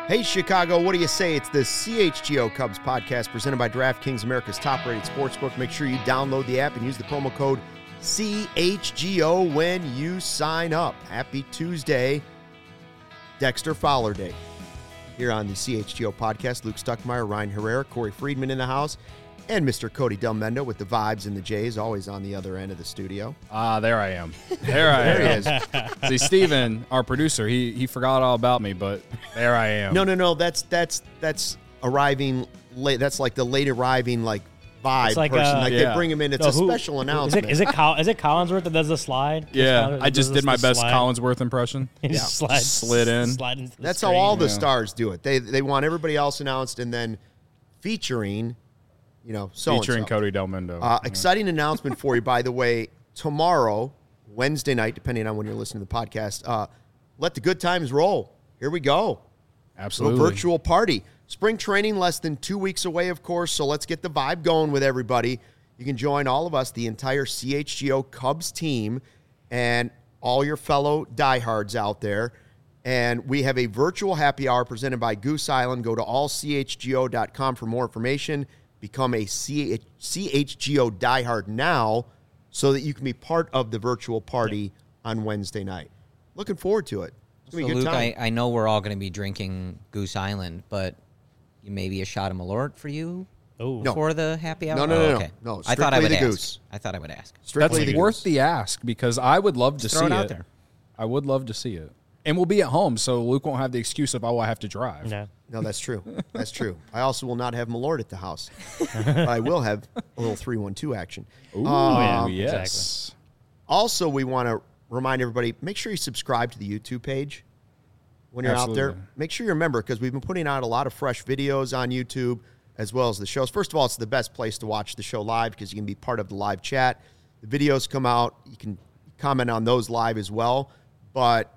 Hey, Chicago, what do you say? It's the CHGO Cubs podcast presented by DraftKings, America's top-rated sportsbook. Make sure you download the app and use the promo code CHGO when you sign up. Happy Tuesday, Dexter Fowler Day. Here on the CHGO podcast, Luke Stuckmeyer, Ryan Herrera, Corey Friedman in the house, and Mr. Cody Del Mendo with the vibes and the J's, always on the other end of the studio. There I am. There he is. See, Steven, our producer, he forgot all about me, but there I am. No. That's arriving late. That's like the late arriving vibe like person. They bring him in. It's a who- special announcement. Is it Collinsworth that does the slide? Yeah, I just did my best slide. Collinsworth impression. He just Slid in. Slide into the That's screen. how all the stars do it. They want everybody else announced and then featuring, so Featuring Cody Del Mendo. Exciting announcement for you, by the way. Tomorrow, Wednesday night, depending on when you're listening to the podcast, let the good times roll. Here we go. Absolutely. A virtual party. Spring training less than 2 weeks away, of course, so let's get the vibe going with everybody. You can join all of us, the entire CHGO Cubs team, and all your fellow diehards out there. And we have a virtual happy hour presented by Goose Island. Go to allchgo.com for more information. Become a CHGO diehard now so that you can be part of the virtual party on Wednesday night. Looking forward to it. It's going to be a good Luke, time. I know we're all going to be drinking Goose Island, but maybe a shot of Malort for you before the happy hour? No. Okay. No, I thought I would strictly the ask. Goose. I thought I would ask. Strictly That's the worth Goose. the ask because I would love to Just see throw it it. out there. I would love to see it. And we'll be at home, so Luke won't have the excuse of, I have to drive. No, that's true. That's true. I also will not have Malort at the house. But I will have a little 3-1-2 action. Ooh, yeah, yes. Also, we want to remind everybody, make sure you subscribe to the YouTube page when you're out there. Absolutely. Make sure you remember, because we've been putting out a lot of fresh videos on YouTube as well as the shows. First of all, it's the best place to watch the show live because you can be part of the live chat. The videos come out. You can comment on those live as well. But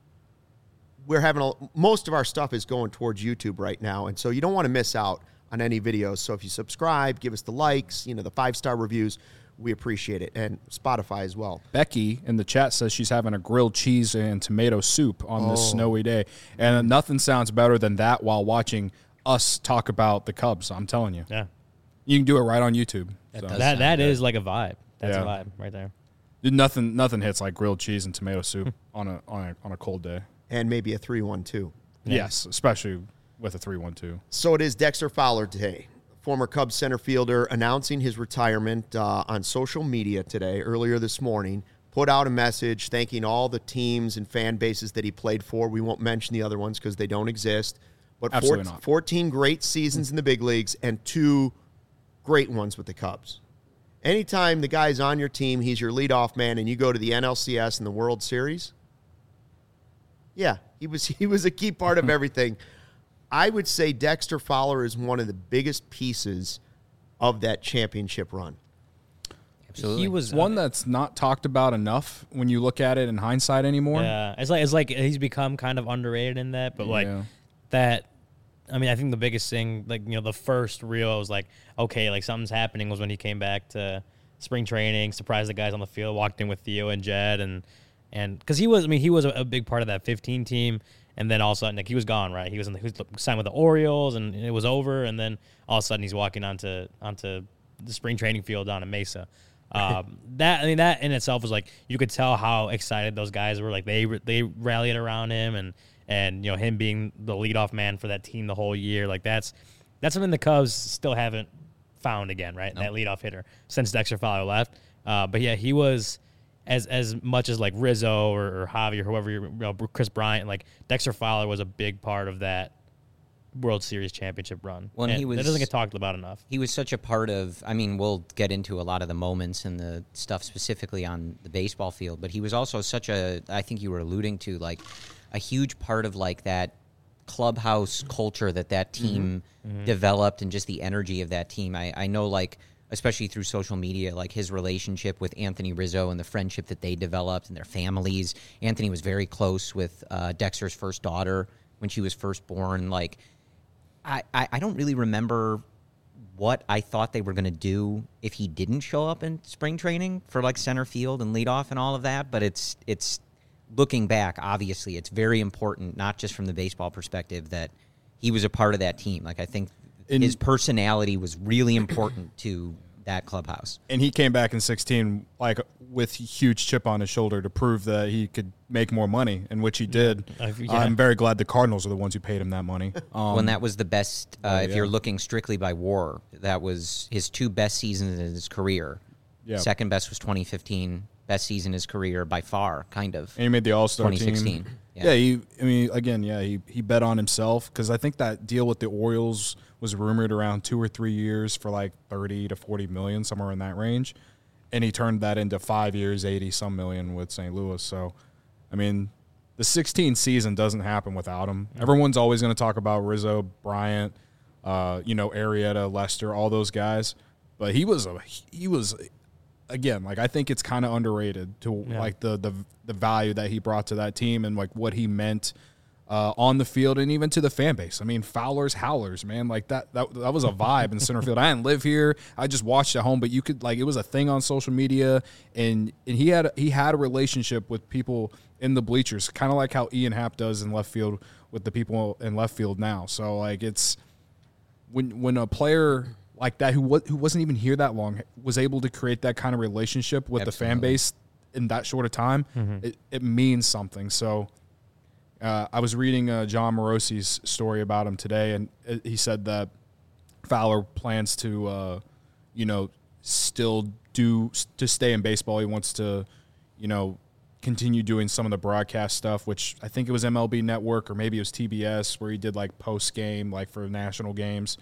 we're having most of our stuff is going towards YouTube right now, and so you don't want to miss out on any videos. So if you subscribe, give us the likes, the 5-star reviews, we appreciate it, and Spotify as well. Becky in the chat says she's having a grilled cheese and tomato soup on this snowy day, and nothing sounds better than that while watching us talk about the Cubs. I'm telling you, Yeah. you can do it right on YouTube. That is like a vibe. That's Yeah. a vibe right there. Nothing hits like grilled cheese and tomato soup on a cold day. And maybe a 3-1-2. Yes, especially with a 3-1-2. So it is Dexter Fowler today, former Cubs center fielder, announcing his retirement on social media today, earlier this morning. Put out a message thanking all the teams and fan bases that he played for. We won't mention the other ones because they don't exist. But Absolutely not. 14 great seasons in the big leagues and 2 great ones with the Cubs. Anytime the guy's on your team, he's your leadoff man, and you go to the NLCS and the World Series, yeah, he was a key part of everything. I would say Dexter Fowler is one of the biggest pieces of that championship run. Absolutely. He was One that's not talked about enough when you look at it in hindsight anymore. Yeah, it's like he's become kind of underrated in that, but that. I mean, I think the biggest thing, the first real, I was like, okay, something's happening was when he came back to spring training, surprised the guys on the field, walked in with Theo and Jed, and because he was a big part of that 15 team, and then all of a sudden, he was gone, right? He was signed with the Orioles, and it was over, and then all of a sudden he's walking onto the spring training field down in Mesa. That in itself was you could tell how excited those guys were. They rallied around him, and him being the leadoff man for that team the whole year. That's something the Cubs still haven't found again, right? That leadoff hitter since Dexter Fowler left. But yeah, he was as much as Rizzo or Javi or whoever, Chris Bryant. Dexter Fowler was a big part of that World Series championship run. Well, and that doesn't get talked about enough. He was such a part of, we'll get into a lot of the moments and the stuff specifically on the baseball field, but he was also I think you were alluding to, a huge part of that clubhouse culture that team developed, and just the energy of that team. I know, especially through social media, his relationship with Anthony Rizzo and the friendship that they developed and their families. Anthony was very close with Dexter's first daughter when she was first born. I don't really remember what I thought they were going to do if he didn't show up in spring training for center field and leadoff and all of that. But it's looking back, obviously, it's very important, not just from the baseball perspective, that he was a part of that team. Like, I think his personality was really important to that clubhouse. And he came back in 16 like with a huge chip on his shoulder to prove that he could make more money, and which he did. I'm very glad the Cardinals are the ones who paid him that money. When that was the best, if you're looking strictly by WAR, that was his 2 best seasons in his career. Yeah. Second best was 2015. Best season in his career by far, kind of. And he made the All-Star 2016. team. Yeah, he bet on himself, because I think that deal with the Orioles was rumored around 2 or 3 years for like 30 to 40 million, somewhere in that range. And he turned that into 5 years, 80-some million with St. Louis. So, I mean, the 16 season doesn't happen without him. Everyone's always going to talk about Rizzo, Bryant, Arrieta, Lester, all those guys. But he was again, like, I think it's kind of underrated to like the value that he brought to that team and like what he meant on the field and even to the fan base. I mean, Fowler's howlers, man, like that was a vibe in center field. I didn't live here; I just watched at home, but you could, like, it was a thing on social media, and he had a relationship with people in the bleachers, kind of like how Ian Happ does in left field with the people in left field now. So, like, it's when a player like that who wasn't even here that long was able to create that kind of relationship with the fan base in that short of time, it means something. So I was reading John Morosi's story about him today, and he said that Fowler plans to, still to stay in baseball. He wants to, continue doing some of the broadcast stuff, which I think it was MLB Network or maybe it was TBS, where he did like post game, like for national games.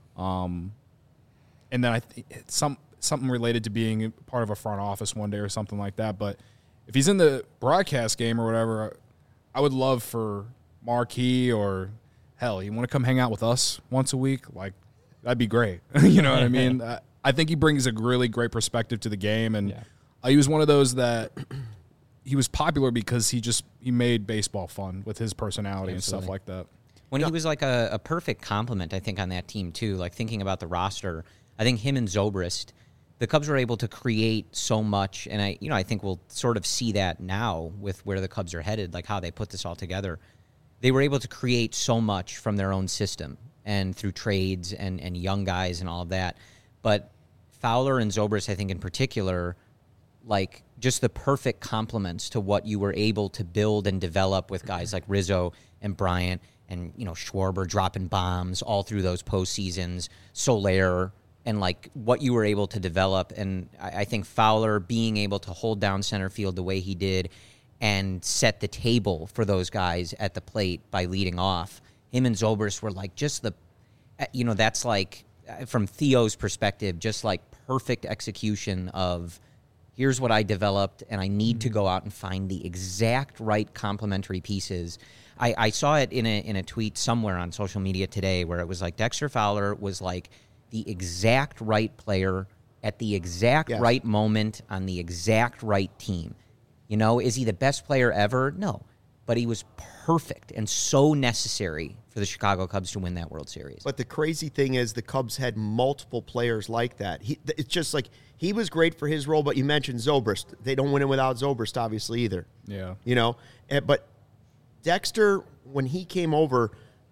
And then I think something related to being part of a front office one day or something like that. But if he's in the broadcast game or whatever, I would love for Marquee, or hell, you want to come hang out with us once a week? Like, that'd be great. You know what I mean? I think he brings a really great perspective to the game. And he was one of those that he was popular because he made baseball fun with his personality and stuff like that. When he was like a perfect complement, I think, on that team too, like thinking about the roster, I think him and Zobrist, the Cubs were able to create so much, and I think we'll sort of see that now with where the Cubs are headed, like how they put this all together. They were able to create so much from their own system and through trades and young guys and all of that. But Fowler and Zobrist, I think in particular, like just the perfect complements to what you were able to build and develop with guys like Rizzo and Bryant and, Schwarber dropping bombs all through those postseasons, Soler, and like what you were able to develop. And I think Fowler being able to hold down center field the way he did and set the table for those guys at the plate by leading off. Him and Zobrist were like just that's like, from Theo's perspective, just like perfect execution of here's what I developed, and I need to go out and find the exact right complementary pieces. I saw it in a tweet somewhere on social media today where it was like Dexter Fowler was like the exact right player at the exact right moment on the exact right team. Is he the best player ever? No. But he was perfect and so necessary for the Chicago Cubs to win that World Series. But the crazy thing is the Cubs had multiple players like that. It's just like he was great for his role, but you mentioned Zobrist. They don't win it without Zobrist, obviously, either. Yeah. But Dexter, when he came over,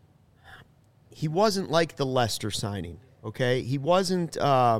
he wasn't like the Lester signing, okay? He wasn't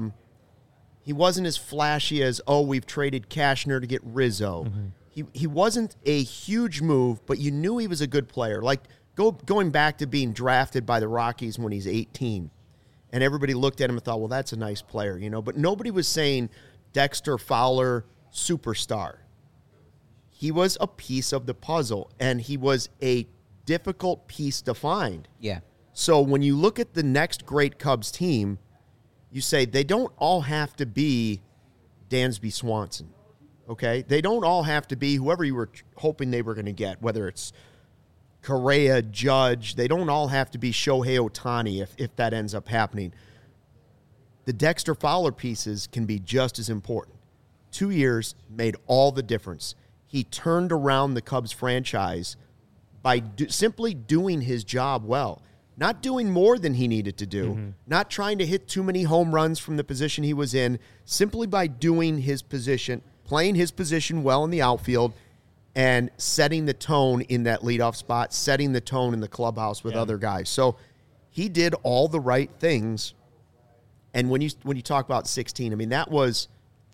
as flashy as, we've traded Cashner to get Rizzo. Mm-hmm. He wasn't a huge move, but you knew he was a good player. Like going back to being drafted by the Rockies when he's 18, and everybody looked at him and thought, well, that's a nice player, But nobody was saying Dexter Fowler, superstar. He was a piece of the puzzle, and he was a difficult piece to find. Yeah. So when you look at the next great Cubs team, you say they don't all have to be Dansby Swanson, okay? They don't all have to be whoever you were hoping they were going to get, whether it's Correa, Judge. They don't all have to be Shohei Ohtani if that ends up happening. The Dexter Fowler pieces can be just as important. 2 years made all the difference. He turned around the Cubs franchise by simply doing his job well. Not doing more than he needed to do, not trying to hit too many home runs from the position he was in, simply by doing his position, playing his position well in the outfield, and setting the tone in that leadoff spot, setting the tone in the clubhouse with other guys. So he did all the right things. And when you talk about 16, I mean, that was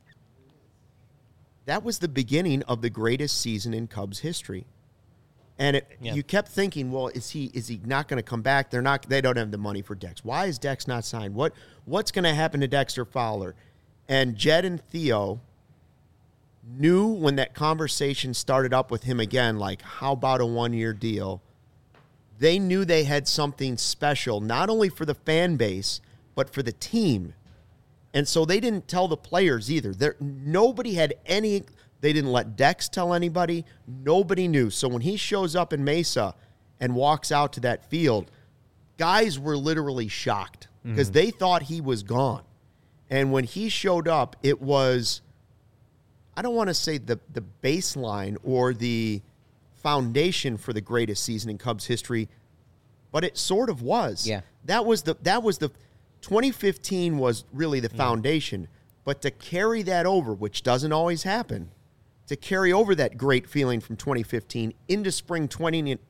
the beginning of the greatest season in Cubs history. And you kept thinking, well, is he not going to come back? They don't have the money for Dex. Why is Dex not signed? What's going to happen to Dexter Fowler? And Jed and Theo knew when that conversation started up with him again, like, how about a 1-year deal? They knew they had something special, not only for the fan base, but for the team. And so they didn't tell the players either. Nobody had any. They didn't let Dex tell anybody. Nobody knew. So when he shows up in Mesa and walks out to that field, guys were literally shocked because they thought he was gone. And when he showed up, it was, I don't want to say the baseline or the foundation for the greatest season in Cubs history, but it sort of was. Yeah. That was the 2015 was really the foundation. But to carry that over, which doesn't always happen, to carry over that great feeling from 2015 into spring training in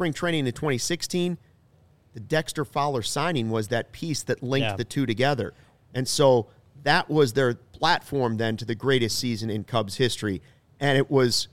2016, the Dexter Fowler signing was that piece that linked the two together. And so that was their platform then to the greatest season in Cubs history. And it was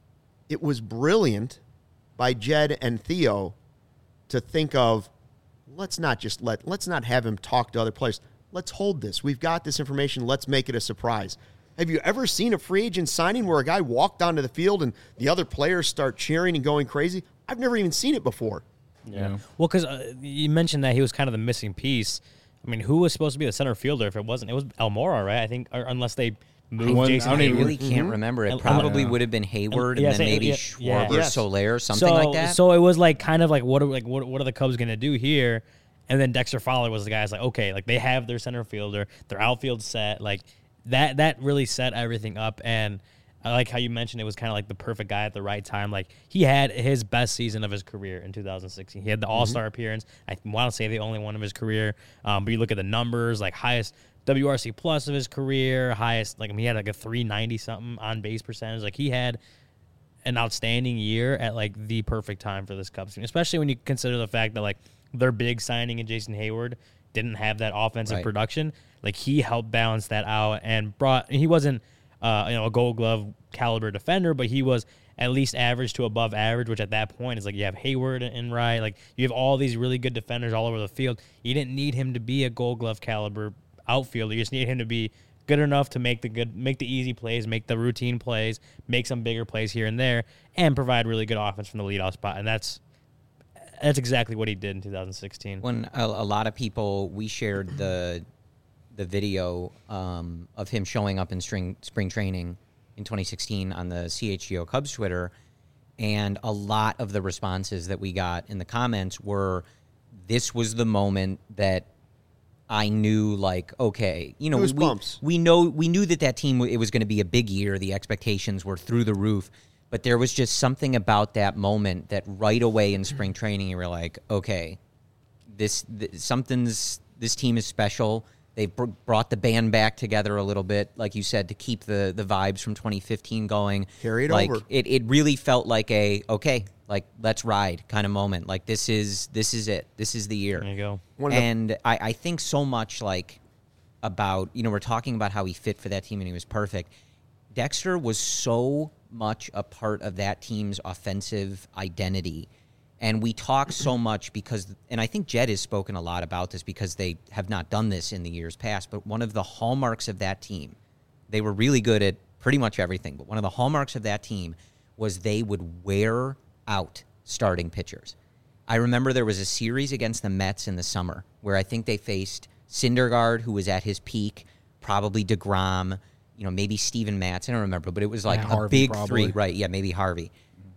brilliant by Jed and Theo to think of, let's not have him talk to other players. Let's hold this. We've got this information. Let's make it a surprise. Have you ever seen a free agent signing where a guy walked onto the field and the other players start cheering and going crazy? I've never even seen it before. Yeah. Well, because you mentioned that he was kind of the missing piece. I mean, who was supposed to be the center fielder if it wasn't? It was Almora, right? I think, or unless they moved Jason I Hayward. really can't remember. It probably would have been Hayward and then maybe Schwarber, Soler, something like that. So it was like kind of like what are the Cubs going to do here? And then Dexter Fowler was the guy who's like, okay, like they have their center fielder, their outfield set, like that really set everything up. And I like how you mentioned it was kind of like the perfect guy at the right time. Like he had his best season of his career in 2016. He had the All-Star appearance. I want to say the only one of his career. But you look at the numbers, like highest WRC plus of his career, highest, like he had like a 390 something on base percentage. Like he had an outstanding year at like the perfect time for this Cubs team, especially when you consider the fact that like their big signing in Jason Hayward didn't have that offensive production. Like he helped balance that out and he wasn't a Gold Glove caliber defender, but he was at least average to above average, which at that point is like you have Hayward and Wright, like you have all these really good defenders all over the field. You didn't need him to be a Gold Glove caliber outfielder. You just need him to be good enough to make the easy plays, make the routine plays, make some bigger plays here and there, and provide really good offense from the leadoff spot. And that's exactly what he did in 2016. When a lot of people, we shared the video of him showing up in spring training in 2016 on the CHGO Cubs Twitter, and a lot of the responses that we got in the comments were, this was the moment that I knew, like, okay, you know, we knew that team, it was going to be a big year. The expectations were through the roof. But there was just something about that moment that right away in spring training, you were like, okay, this team is special. They've brought the band back together a little bit, like you said, to keep the vibes from 2015 going. Carry it like, over. It really felt like let's ride kind of moment. Like this is it. This is the year. There you go. And I think so much like about, we're talking about how he fit for that team and he was perfect. Dexter was so much a part of that team's offensive identity. And we talk so much because, and I think Jed has spoken a lot about this because they have not done this in the years past, but one of the hallmarks of that team, they were really good at pretty much everything, but one of the hallmarks of that team was they would wear out starting pitchers. I remember there was a series against the Mets in the summer where I think they faced Syndergaard, who was at his peak, probably DeGrom, maybe Steven Matz, I don't remember, but it was like a big three, right? Yeah, maybe Harvey.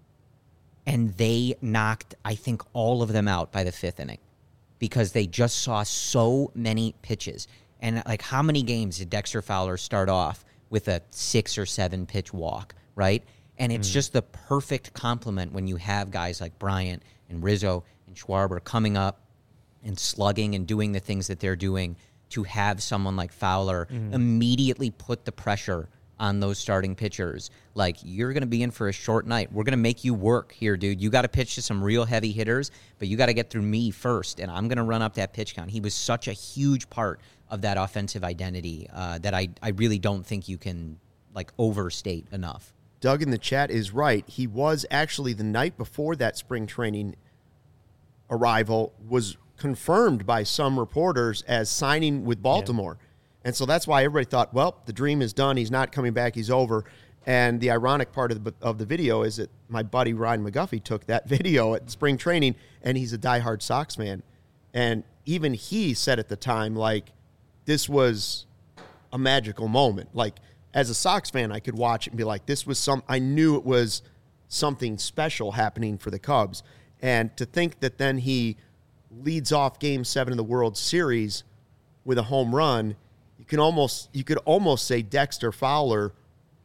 And they knocked, I think, all of them out by the fifth inning because they just saw so many pitches. And like, how many games did Dexter Fowler start off with a 6 or 7 pitch walk, right? And it's just the perfect complement when you have guys like Bryant and Rizzo and Schwarber coming up and slugging and doing the things that they're doing, to have someone like Fowler immediately put the pressure on those starting pitchers. Like, you're going to be in for a short night. We're going to make you work here, dude. You got to pitch to some real heavy hitters, but you got to get through me first, and I'm going to run up that pitch count. He was such a huge part of that offensive identity that I really don't think you can, like, overstate enough. Doug in the chat is right. He was actually, the night before that spring training arrival, was confirmed by some reporters as signing with Baltimore. Yeah. And so that's why everybody thought, well, the dream is done. He's not coming back. He's over. And the ironic part of the video is that my buddy Ryan McGuffey took that video at spring training, and he's a diehard Sox fan. And even he said at the time, like, this was a magical moment. Like, as a Sox fan, I could watch it and be like, I knew it was something special happening for the Cubs. And to think that then he leads off Game 7 of the World Series with a home run, you could almost say Dexter Fowler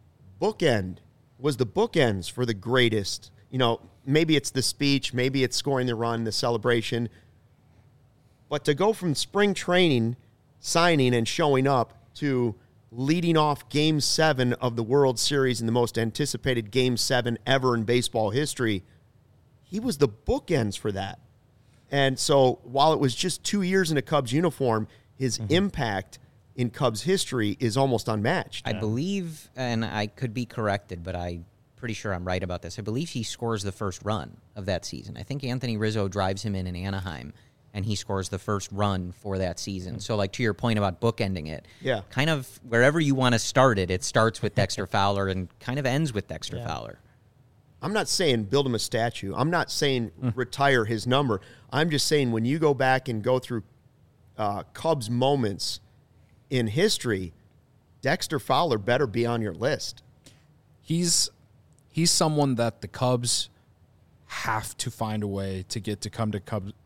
was the bookends for the greatest. You know, maybe it's the speech, maybe it's scoring the run, the celebration. But to go from spring training, signing and showing up, to leading off Game 7 of the World Series in the most anticipated Game 7 ever in baseball history, he was the bookends for that. And so while it was just 2 years in a Cubs uniform, his impact in Cubs history is almost unmatched. I believe, and I could be corrected, but I'm pretty sure I'm right about this. I believe he scores the first run of that season. I think Anthony Rizzo drives him in Anaheim, and he scores the first run for that season. So, like, to your point about bookending it, kind of wherever you want to start it, it starts with Dexter Fowler and kind of ends with Dexter Fowler. I'm not saying build him a statue. I'm not saying retire his number. I'm just saying when you go back and go through Cubs moments in history, Dexter Fowler better be on your list. He's someone that the Cubs have to find a way to get to come to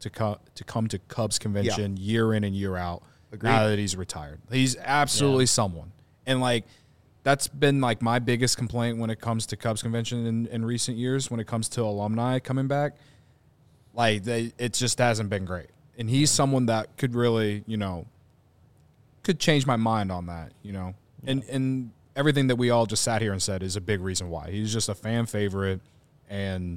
Cubs convention year in and year out. Agreed. Now that he's retired. He's absolutely someone. And, like, that's been, like, my biggest complaint when it comes to Cubs convention in recent years, when it comes to alumni coming back. Like, it just hasn't been great. And he's someone that could really, could change my mind on that, And everything that we all just sat here and said is a big reason why. He's just a fan favorite. And,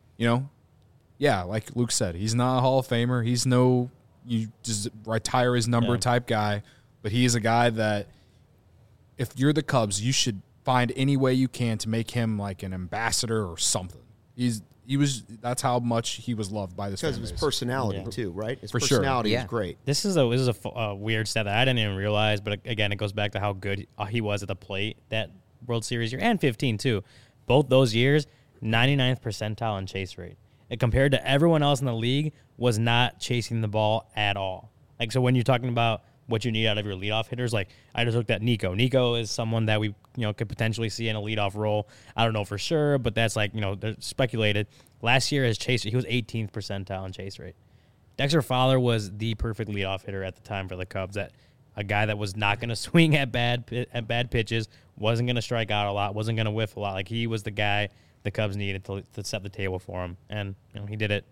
like Luke said, he's not a Hall of Famer. He's no you just retire his number type guy. But he is a guy that if you're the Cubs, you should find any way you can to make him like an ambassador or something. That's how much he was loved by this fan base. Because of his personality too, right? His For personality sure. is great. This is a weird stat that I didn't even realize, but again, it goes back to how good he was at the plate that World Series year, and 15 too. Both those years, 99th percentile in chase rate. And compared to everyone else in the league, was not chasing the ball at all. Like, so when you're talking about what you need out of your leadoff hitters, like I just looked at Nico. Nico is someone that we could potentially see in a leadoff role. I don't know for sure, but that's like they're speculated. Last year his chase, he was 18th percentile in chase rate. Dexter Fowler was the perfect leadoff hitter at the time for the Cubs. That a guy that was not going to swing at bad pitches, wasn't going to strike out a lot, wasn't going to whiff a lot. Like he was the guy the Cubs needed to set the table for him, and he did it.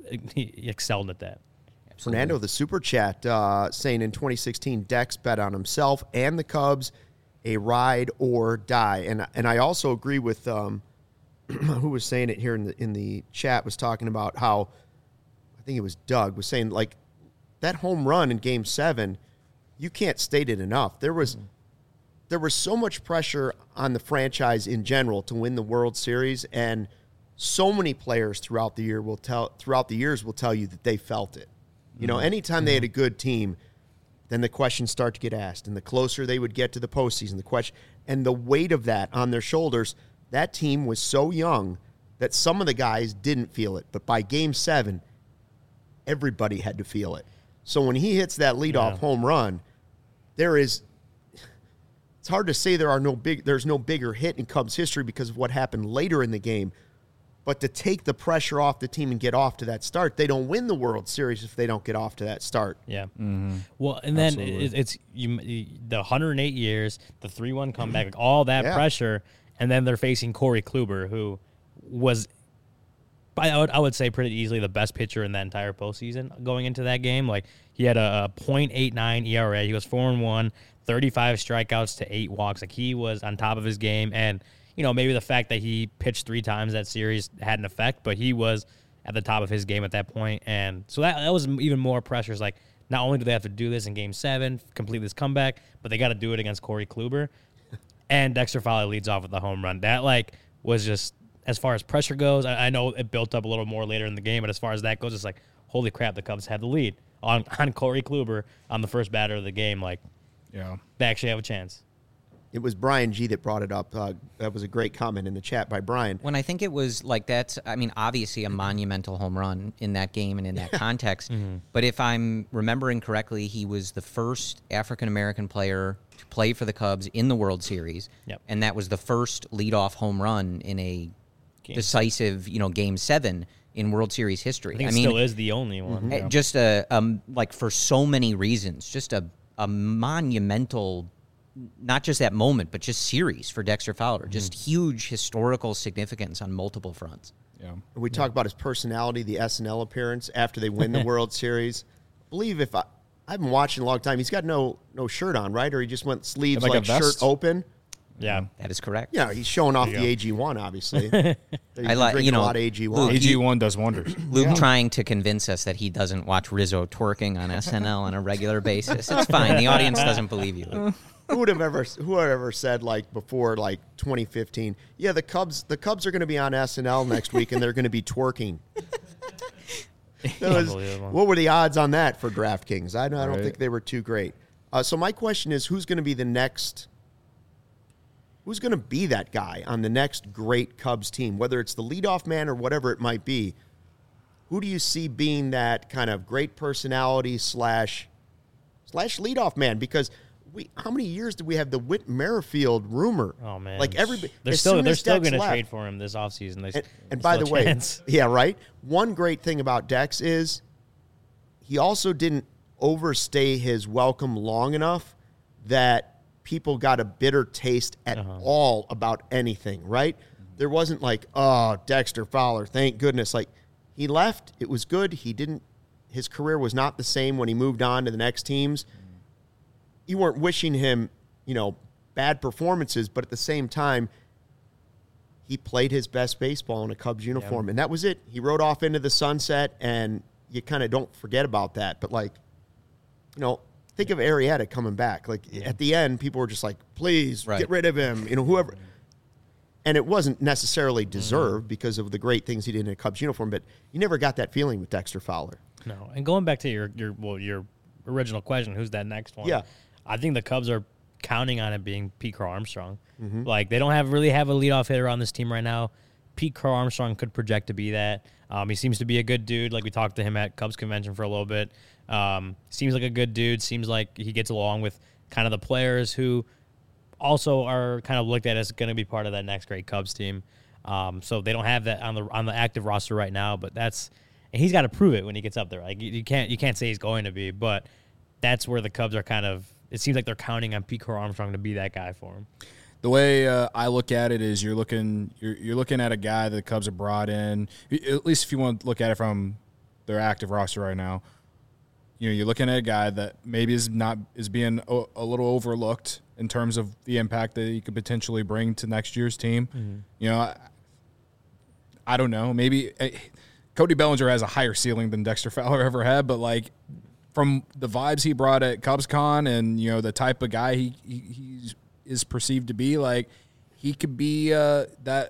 He excelled at that. Absolutely. Fernando, the super chat, saying in 2016, Dex bet on himself and the Cubs, a ride or die. And I also agree with who was saying it here in the chat, was talking about how, I think it was Doug, was saying like that home run in Game 7, you can't state it enough. There was so much pressure on the franchise in general to win the World Series, and so many players throughout the years will tell you that they felt it. Anytime they had a good team, then the questions start to get asked. And the closer they would get to the postseason, and the weight of that on their shoulders, that team was so young that some of the guys didn't feel it. But by Game 7, everybody had to feel it. So when he hits that leadoff home run, it's hard to say there's no bigger hit in Cubs history because of what happened later in the game. But to take the pressure off the team and get off to that start, they don't win the World Series if they don't get off to that start. Yeah. Mm-hmm. Well, and then it's the 108 years, the 3-1 comeback, all that pressure, and then they're facing Corey Kluber, who was I would say pretty easily the best pitcher in that entire postseason going into that game. Like, he had a .89 ERA. He was 4-1, 35 strikeouts to 8 walks. Like, he was on top of his game. And, maybe the fact that he pitched 3 times that series had an effect, but he was at the top of his game at that point. And so that was even more pressure. It's like, not only do they have to do this in Game 7, complete this comeback, but they got to do it against Corey Kluber. And Dexter Fowler leads off with the home run. That, was just, as far as pressure goes, I know it built up a little more later in the game, but as far as that goes, it's like, holy crap, the Cubs had the lead on Corey Kluber on the first batter of the game. They actually have a chance. It was Brian G. that brought it up. That was a great comment in the chat by Brian. When I think it was that's, obviously a monumental home run in that game and in that context. Mm-hmm. But if I'm remembering correctly, he was the first African-American player to play for the Cubs in the World Series. Yep. And that was the first leadoff home run in a decisive, Game 7 in World Series history. I think it still is the only one. Mm-hmm. Just for so many reasons, just a monumental, not just that moment, but just series for Dexter Fowler. Mm-hmm. Just huge historical significance on multiple fronts. Yeah. We talk about his personality, the SNL appearance after they win the World Series. I believe I've been watching a long time. He's got no shirt on, right? Or he just went sleeves shirt open. Yeah, that is correct. Yeah, he's showing off the AG1, obviously. I like a lot of AG1. AG1 does wonders. Luke trying to convince us that he doesn't watch Rizzo twerking on SNL on a regular basis. It's fine. The audience doesn't believe you. Who would have ever said before 2015? Yeah, the Cubs are going to be on SNL next week and they're going to be twerking. What were the odds on that for DraftKings? I don't think they were too great. So my question is, who's going to be the next? Who's going to be that guy on the next great Cubs team? Whether it's the leadoff man or whatever it might be, who do you see being that kind of great personality slash leadoff man? Because how many years did we have the Whit Merrifield rumor? Oh man, everybody. They're still going to trade for him this offseason. And by the way, yeah, right. One great thing about Dex is he also didn't overstay his welcome long enough that people got a bitter taste at all about anything, right? There wasn't Dexter Fowler, thank goodness. He left, it was good. His career was not the same when he moved on to the next teams. You weren't wishing him, bad performances, but at the same time, he played his best baseball in a Cubs uniform, and that was it. He rode off into the sunset, and you kind of don't forget about that. But, think of Arrieta coming back. At the end, people were just please get rid of him, whoever. And it wasn't necessarily deserved because of the great things he did in a Cubs uniform, but you never got that feeling with Dexter Fowler. No. And going back to your original question, who's that next one? Yeah. I think the Cubs are counting on it being Pete Crow Armstrong. Mm-hmm. They don't really have a leadoff hitter on this team right now. Pete Crow Armstrong could project to be that. He seems to be a good dude. We talked to him at Cubs convention for a little bit. Seems like a good dude. Seems like he gets along with kind of the players who also are kind of looked at as going to be part of that next great Cubs team. So they don't have that on the active roster right now, but and he's got to prove it when he gets up there. You can't say he's going to be, but that's where the Cubs are kind of. It seems like they're counting on Pete Crow Armstrong to be that guy for him. The way I look at it is you're looking at a guy that the Cubs have brought in, at least if you want to look at it from their active roster right now. You're looking at a guy that maybe is being a little overlooked in terms of the impact that he could potentially bring to next year's team. Mm-hmm. I don't know. Maybe Cody Bellinger has a higher ceiling than Dexter Fowler ever had, but from the vibes he brought at CubsCon and the type of guy he is perceived to be, he could be that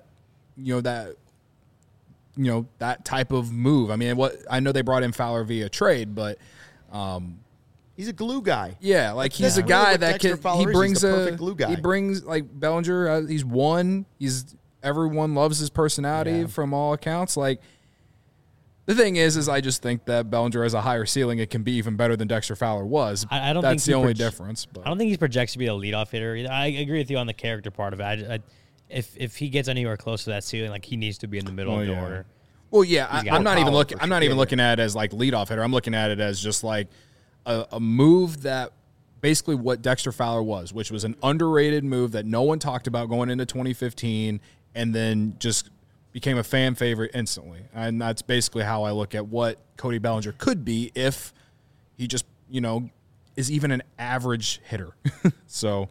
type of move. I mean, I know they brought in Fowler via trade, but he's a glue guy. Yeah, he's a guy that he brings a perfect glue guy. He brings Bellinger. He's one. Everyone loves his personality from all accounts. The thing is I just think that Bellinger has a higher ceiling. It can be even better than Dexter Fowler was. I don't That's think the only difference. But. I don't think he's projected to be a leadoff hitter either. I agree with you on the character part of it. If he gets anywhere close to that ceiling, he needs to be in the middle of the order. Well, yeah, I'm not even looking at it as leadoff hitter. I'm looking at it as just a move that basically what Dexter Fowler was, which was an underrated move that no one talked about going into 2015, and then just became a fan favorite instantly. And that's basically how I look at what Cody Bellinger could be if he just, is even an average hitter. So,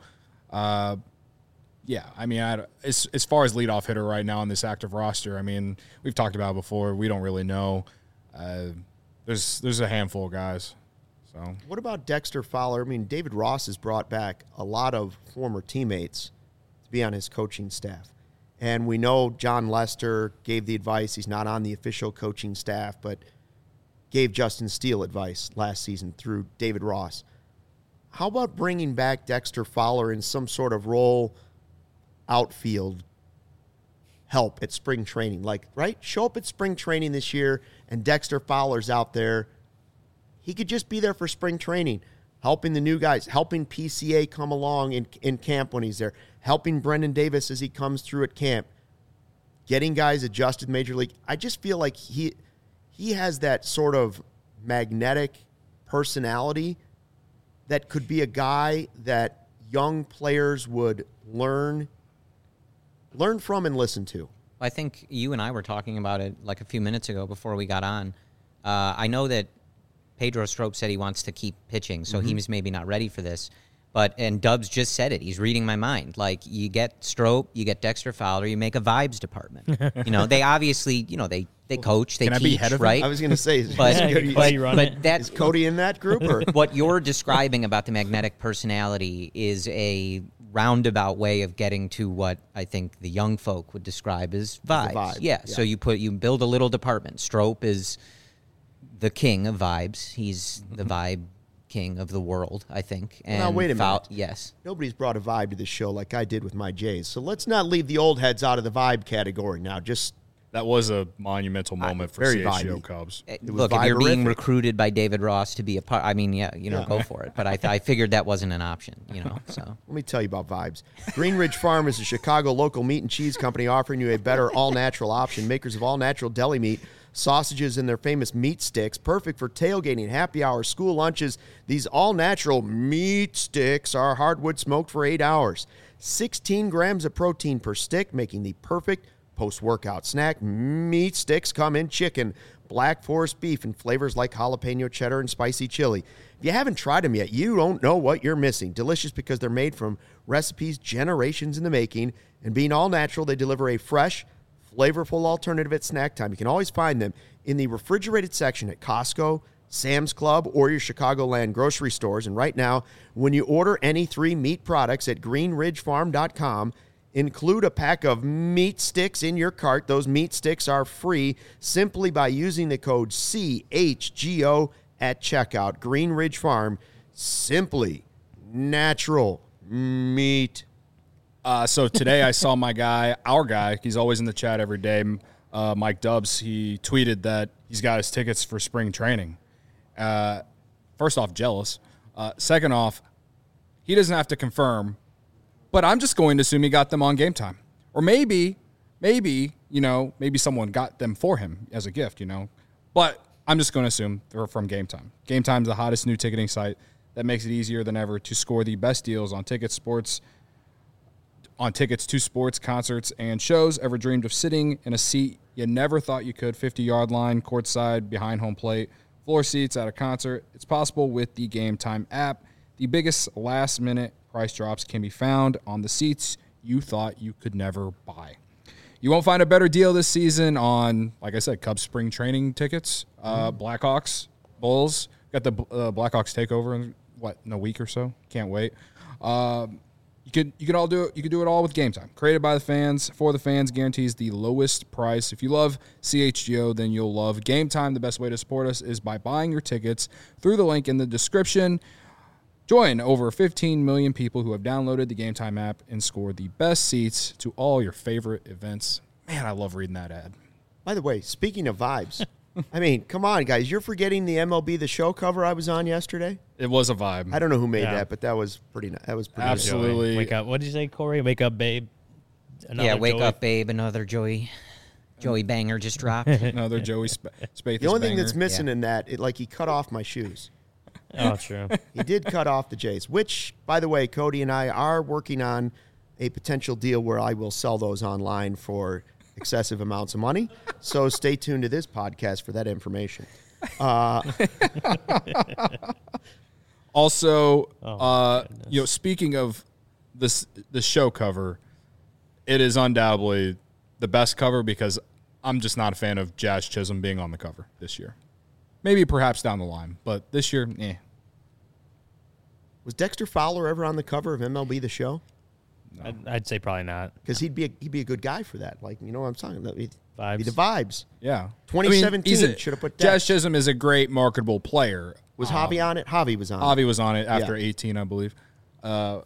yeah, I mean, as far as leadoff hitter right now on this active roster, I mean, we've talked about it before. We don't really know. There's a handful of guys. So what about Dexter Fowler? I mean, David Ross has brought back a lot of former teammates to be on his coaching staff. And we know John Lester gave the advice. He's not on the official coaching staff, but gave Justin Steele advice last season through David Ross. How about bringing back Dexter Fowler in some sort of role, outfield help at spring training? Like, right? Show up at spring training this year, and Dexter Fowler's out there. He could just be there for spring training, helping the new guys, helping PCA come along in camp when he's there, helping Brendan Davis as he comes through at camp, getting guys adjusted Major League. I just feel like he has that sort of magnetic personality that could be a guy that young players would learn from and listen to. I think you and I were talking about it like a few minutes ago before we got on. I know that Pedro Strop said he wants to keep pitching, so he was maybe not ready for this. And Dubs just said it. He's reading my mind. Like, you get Strop, you get Dexter Fowler, you make a vibes department. They obviously, they coach, they teach, right? I was going to say, is Cody in that group? Or? What you're describing about the magnetic personality is a roundabout way of getting to what I think the young folk would describe as vibes. Yeah. So you build a little department. Strop is the king of vibes. He's the vibe king of the world, I think. And now, wait a minute. Yes. Nobody's brought a vibe to this show like I did with my Jays. So let's not leave the old heads out of the vibe category now. That was a monumental moment for CHGO Cubs. Look, if you're being recruited by David Ross to be a part, I mean, go for it. But I figured that wasn't an option, so. Let me tell you about vibes. Green Ridge Farm is a Chicago local meat and cheese company offering you a better all-natural option. Makers of all-natural deli meat, sausages, and their famous meat sticks, perfect for tailgating, happy hour, school lunches. These all-natural meat sticks are hardwood smoked for 8 hours. 16 grams of protein per stick, making the perfect post-workout snack. Meat sticks come in chicken, Black Forest beef, and flavors like jalapeno cheddar and spicy chili. If you haven't tried them yet, you don't know what you're missing. Delicious because they're made from recipes generations in the making, and being all natural, they deliver a fresh, flavorful alternative at snack time. You can always find them in the refrigerated section at Costco, Sam's Club, or your Chicagoland grocery stores. And right now, when you order any 3 meat products at greenridgefarm.com, include a pack of meat sticks in your cart. Those meat sticks are free simply by using the code CHGO at checkout. Green Ridge Farm, simply natural meat. So today I saw our guy, he's always in the chat every day, Mike Dubs. He tweeted that he's got his tickets for spring training. First off, jealous. Second off, he doesn't have to confirm, but I'm just going to assume he got them on Game Time. Or maybe someone got them for him as a gift, But I'm just going to assume they're from Game Time. Game Time's the hottest new ticketing site that makes it easier than ever to score the best deals on tickets to sports, concerts, and shows. Ever dreamed of sitting in a seat you never thought you could? 50-yard line, courtside, behind home plate, floor seats at a concert. It's possible with the Game Time app. The biggest last-minute price drops can be found on the seats you thought you could never buy. You won't find a better deal this season on, like I said, Cubs spring training tickets, Blackhawks, Bulls. Got the Blackhawks takeover in a week or so. Can't wait. You could all do it. You could do it all with Game Time. Created by the fans, for the fans, guarantees the lowest price. If you love CHGO, then you'll love Game Time. The best way to support us is by buying your tickets through the link in the description. Join over 15 million people who have downloaded the Game Time app and score the best seats to all your favorite events. Man, I love reading that ad. By the way, speaking of vibes, I mean, come on, guys. You're forgetting the MLB The Show cover I was on yesterday? It was a vibe. I don't know who made that, but that was pretty nice. Absolutely. Nice. Wake up. What did you say, Corey? Wake up, babe. Wake up, babe. Another Joey banger just dropped. Another Joey Spathis The only thing banger. that's missing in that, he cut off my shoes. Oh, true. He did cut off the Jays, which, by the way, Cody and I are working on a potential deal where I will sell those online for excessive amounts of money. So stay tuned to this podcast for that information. Also, speaking of the show cover, it is undoubtedly the best cover because I'm just not a fan of Jazz Chisholm being on the cover this year. Maybe perhaps down the line, but this year, Was Dexter Fowler ever on the cover of MLB The Show? No. I'd say probably not. Because he'd be a good guy for that. Like, you know what I'm talking about? Vibes. Be the vibes. Yeah. 2017 should have put Jazz Chisholm is a great marketable player. Was Javi on it? Javi was on it. Javi was on it after 18, I believe. But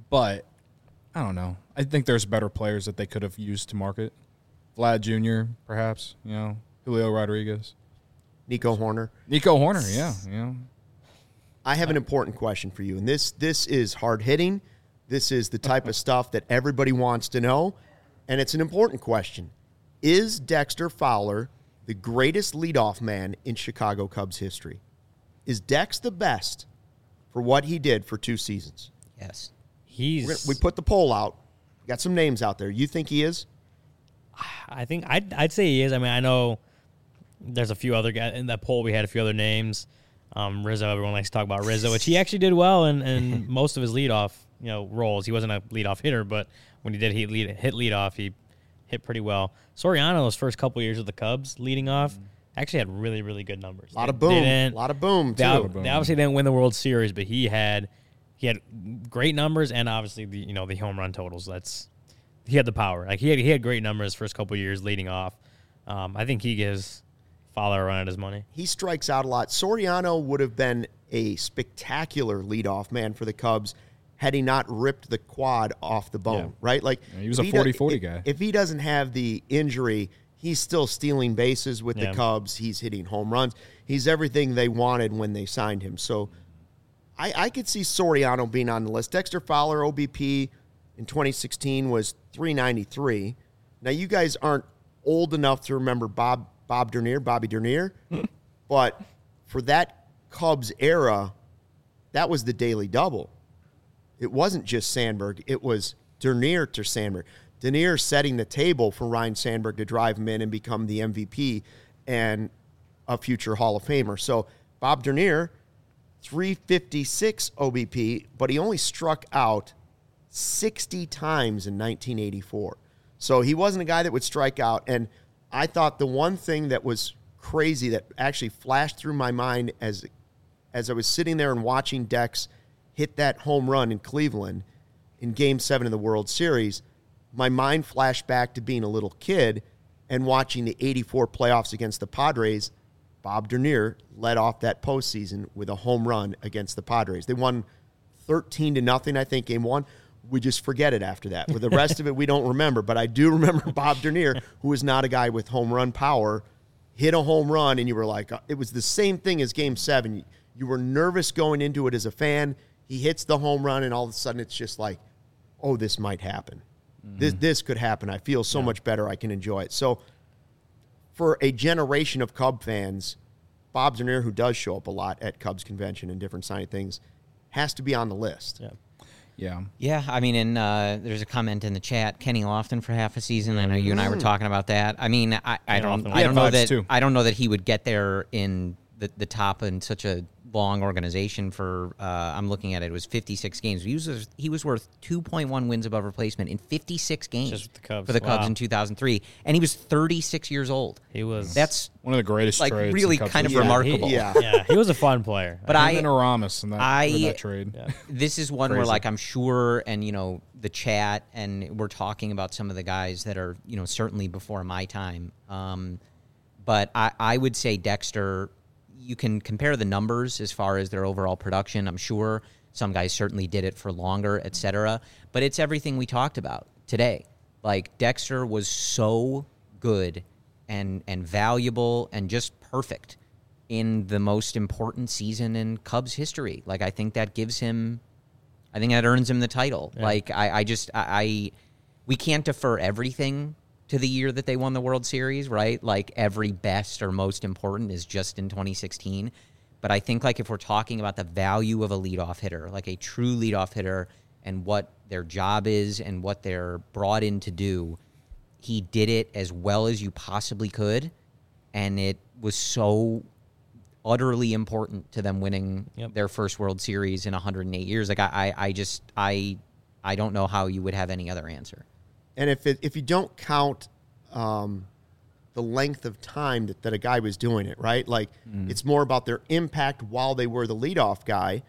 I don't know. I think there's better players that they could have used to market. Vlad Jr., perhaps, Julio Rodriguez. Nico Horner, yeah. I have an important question for you, and this is hard-hitting. This is the type of stuff that everybody wants to know, and it's an important question. Is Dexter Fowler the greatest leadoff man in Chicago Cubs history? Is Dex the best for what he did for 2 seasons? Yes. We put the poll out. Got some names out there. You think he is? I think I'd say he is. I mean, I know there's a few other guys in that poll. We had a few other names. Rizzo, everyone likes to talk about Rizzo, which he actually did well in most of his leadoff roles. He wasn't a leadoff hitter, but when he did hit leadoff, he hit pretty well. Soriano, his first couple years with the Cubs leading off, actually had really, really good numbers. A lot of boom, too. They obviously didn't win the World Series, but he had great numbers and obviously the home run totals. He had the power. Like he had great numbers first couple years leading off. I think he gives Fowler a run at his money. He strikes out a lot. Soriano would have been a spectacular leadoff man for the Cubs had he not ripped the quad off the bone, right? Like he was a 40-40 guy. If he doesn't have the injury, he's still stealing bases with the Cubs. He's hitting home runs. He's everything they wanted when they signed him. So I could see Soriano being on the list. Dexter Fowler, OBP in 2016 was 393. Now, you guys aren't old enough to remember Bobby Dernier, but for that Cubs era, that was the daily double. It wasn't just Sandberg. It was Dernier to Sandberg. Dernier setting the table for Ryne Sandberg to drive him in and become the MVP and a future Hall of Famer. So Bob Dernier, 356 OBP, but he only struck out 60 times in 1984. So he wasn't a guy that would strike out. And I thought the one thing that was crazy that actually flashed through my mind as I was sitting there and watching Dex hit that home run in Cleveland in Game 7 of the World Series, my mind flashed back to being a little kid and watching the 84 playoffs against the Padres. Bob Dernier led off that postseason with a home run against the Padres. They won 13-0, I think, Game 1. We just forget it after that. With the rest of it, we don't remember. But I do remember Bob Dernier, who is not a guy with home run power, hit a home run, and you were like, it was the same thing as Game 7. You were nervous going into it as a fan. He hits the home run, and all of a sudden it's just like, oh, this might happen. Mm-hmm. This could happen. I feel so much better. I can enjoy it. So for a generation of Cub fans, Bob Dernier, who does show up a lot at Cubs convention and different signing things, has to be on the list. Yeah. I mean, there's a comment in the chat. Kenny Lofton for half a season. I know you and I were talking about that. I mean, I don't know that he would get there in the top in such a long organization for. I'm looking at it. It was 56 games. He was worth 2.1 wins above replacement in 56 games just with the Cubs. For the Cubs in 2003, and he was 36 years old. That's one of the greatest trades. Really kind of remarkable. He was a fun player. But and Aramis in that trade. Yeah. This is one where, like, I'm sure, and the chat, and we're talking about some of the guys that are certainly before my time. But I would say Dexter. You can compare the numbers as far as their overall production. I'm sure some guys certainly did it for longer, et cetera. But it's everything we talked about today. Like, Dexter was so good and valuable and just perfect in the most important season in Cubs history. Like, I think that earns him the title. Yeah. Like, we can't defer everything to the year that they won the World Series, right? Like, every best or most important is just in 2016. But I think, like, if we're talking about the value of a leadoff hitter, like a true leadoff hitter, and what their job is and what they're brought in to do, he did it as well as you possibly could, and it was so utterly important to them winning their first World Series in 108 years. Like I don't know how you would have any other answer. And if you don't count the length of time that a guy was doing it, right? Like it's more about their impact while they were the leadoff guy.